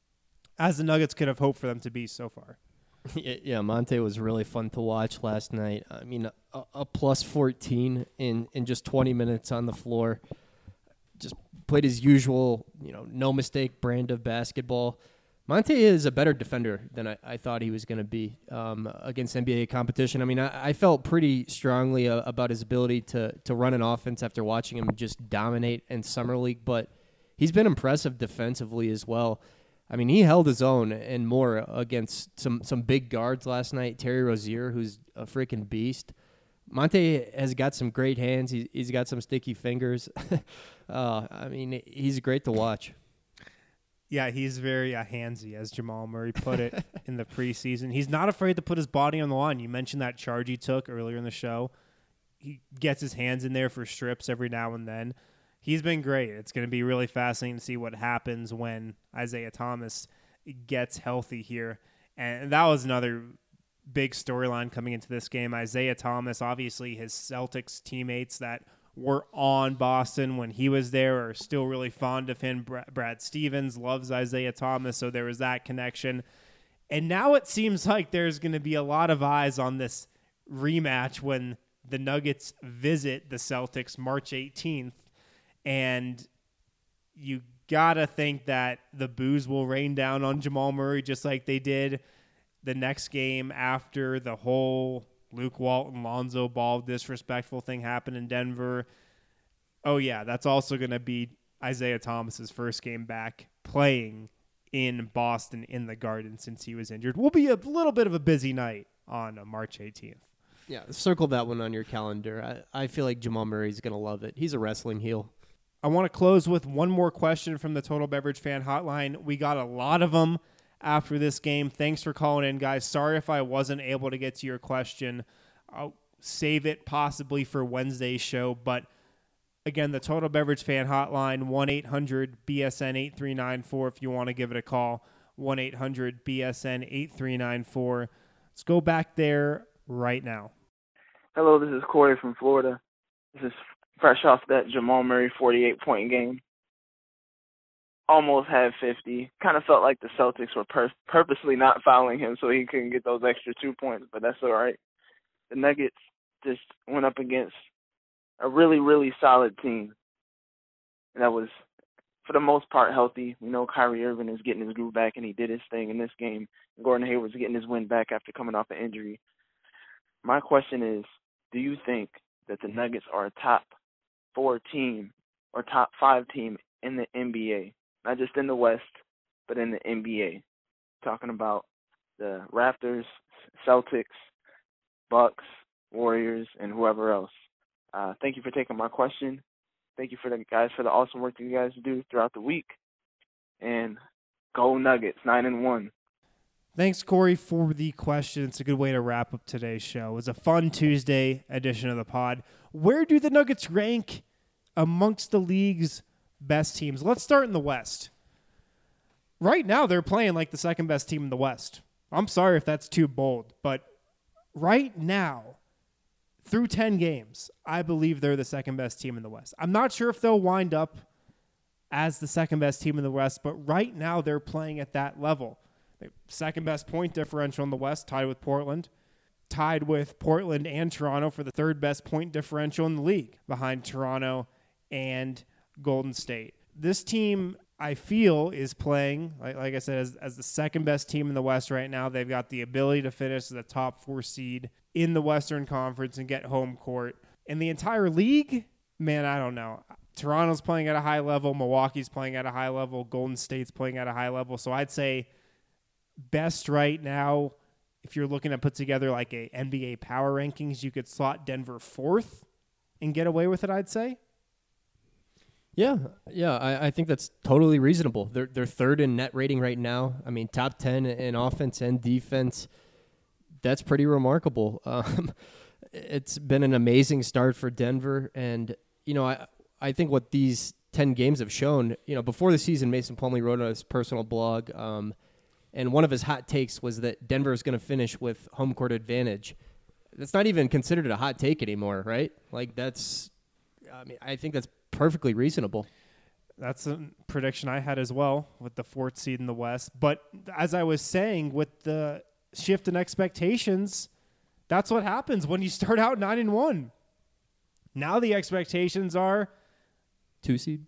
as the Nuggets could have hoped for them to be so far. Yeah, Monte was really fun to watch last night. I mean, a plus 14 in just 20 minutes on the floor. Just played his usual, no mistake brand of basketball. Monte is a better defender than I thought he was going to be against NBA competition. I mean, I felt pretty strongly about his ability to run an offense after watching him just dominate in Summer League, but he's been impressive defensively as well. I mean, he held his own and more against some big guards last night. Terry Rozier, who's a freaking beast. Monte has got some great hands. He's got some sticky fingers. I mean, he's great to watch. Yeah, he's very handsy, as Jamal Murray put it in the preseason. He's not afraid to put his body on the line. You mentioned that charge he took earlier in the show. He gets his hands in there for strips every now and then. He's been great. It's going to be really fascinating to see what happens when Isaiah Thomas gets healthy here. And that was another big storyline coming into this game. Isaiah Thomas, obviously his Celtics teammates that were on Boston when he was there are still really fond of him. Brad Stevens loves Isaiah Thomas, so there was that connection. And now it seems like there's going to be a lot of eyes on this rematch when the Nuggets visit the Celtics March 18th. And you got to think that the boos will rain down on Jamal Murray just like they did the next game after the whole Luke Walton, Lonzo Ball disrespectful thing happened in Denver. Oh, yeah, that's also going to be Isaiah Thomas's first game back playing in Boston in the Garden since he was injured. Will be a little bit of a busy night on March 18th. Yeah, circle that one on your calendar. I feel like Jamal Murray's going to love it. He's a wrestling heel. I want to close with one more question from the Total Beverage Fan Hotline. We got a lot of them after this game. Thanks for calling in, guys. Sorry if I wasn't able to get to your question. I'll save it possibly for Wednesday's show. But again, the Total Beverage Fan Hotline, 1-800-BSN-8394 if you want to give it a call. 1-800-BSN-8394. Let's go back there right now. Hello, this is Corey from Florida. This is fresh off that Jamal Murray 48-point game. Almost had 50. Kind of felt like the Celtics were purposely not fouling him so he couldn't get those extra 2 points, but that's all right. The Nuggets just went up against a really, really solid team. And that was for the most part, healthy. We know Kyrie Irving is getting his groove back, and he did his thing in this game. Gordon Hayward's getting his win back after coming off an injury. My question is, do you think that the Nuggets are a top 4 team or top 5 team in the NBA? Not just in the West, but in the NBA. Talking about the Raptors, Celtics, Bucks, Warriors, and whoever else. Thank you for taking my question. Thank you for the guys for the awesome work that you guys do throughout the week. And go Nuggets, 9-1. Thanks, Corey, for the question. It's a good way to wrap up today's show. It was a fun Tuesday edition of the pod. Where do the Nuggets rank amongst the league's best teams? Let's start in the West. Right now, they're playing like the second best team in the West. I'm sorry if that's too bold, but right now, through 10 games, I believe they're the second best team in the West. I'm not sure if they'll wind up as the second best team in the West, but right now they're playing at that level. Second best point differential in the West, tied with Portland and Toronto for the third best point differential in the league, behind Toronto and Golden State. This team, I feel, is playing, like I said, as the second best team in the West right now. They've got the ability to finish as a top 4 seed in the Western Conference and get home court. In the entire league, man, I don't know. Toronto's playing at a high level. Milwaukee's playing at a high level. Golden State's playing at a high level. So I'd say best right now, if you're looking to put together like a NBA power rankings, you could slot Denver 4th and get away with it, I'd say. Yeah, I think that's totally reasonable. They're third in net rating right now. I mean, top 10 in offense and defense. That's pretty remarkable. It's been an amazing start for Denver, and I think what these 10 games have shown. Before the season, Mason Plumlee wrote on his personal blog, and one of his hot takes was that Denver is going to finish with home court advantage. That's not even considered a hot take anymore, right? I think that's perfectly reasonable. That's a prediction I had as well with the 4th seed in the West. But as I was saying, with the shift in expectations, that's what happens when you start out 9-1. Now the expectations are 2 seed?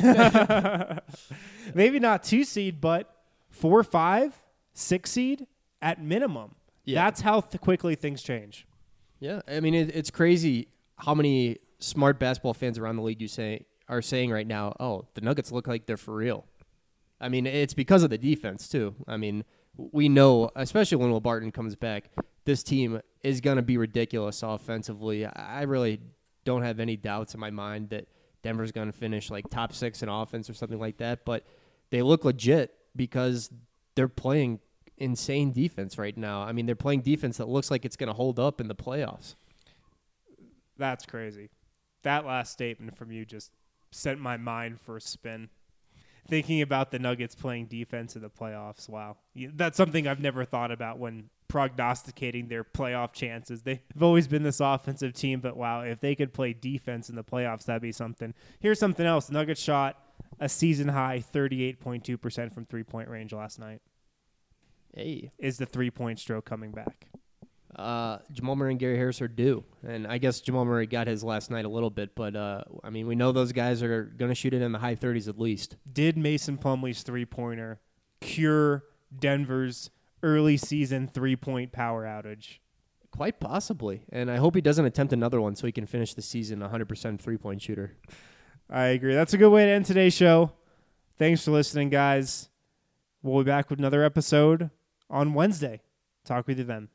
Maybe not 2 seed, but 4, 5, 6 seed at minimum. Yeah. That's how quickly things change. Yeah, I mean, it's crazy how many smart basketball fans around the league are saying right now, oh, the Nuggets look like they're for real. I mean, it's because of the defense, too. I mean, we know, especially when Will Barton comes back, this team is going to be ridiculous offensively. I really don't have any doubts in my mind that Denver's going to finish like top 6 in offense or something like that, but they look legit because they're playing insane defense right now. I mean, they're playing defense that looks like it's going to hold up in the playoffs. That's crazy. That last statement from you just sent my mind for a spin. Thinking about the Nuggets playing defense in the playoffs, wow. That's something I've never thought about when prognosticating their playoff chances. They've always been this offensive team, but wow, if they could play defense in the playoffs, that'd be something. Here's something else. The Nuggets shot a season-high 38.2% from three-point range last night. Hey. Is the three-point stroke coming back? Jamal Murray and Gary Harris are due. And I guess Jamal Murray got his last night a little bit, but I mean, we know those guys are going to shoot it in the high 30s at least. Did Mason Plumlee's three-pointer cure Denver's early season three-point power outage? Quite possibly. And I hope he doesn't attempt another one so he can finish the season 100% three-point shooter. I agree. That's a good way to end today's show. Thanks for listening, guys. We'll be back with another episode on Wednesday. Talk with you then.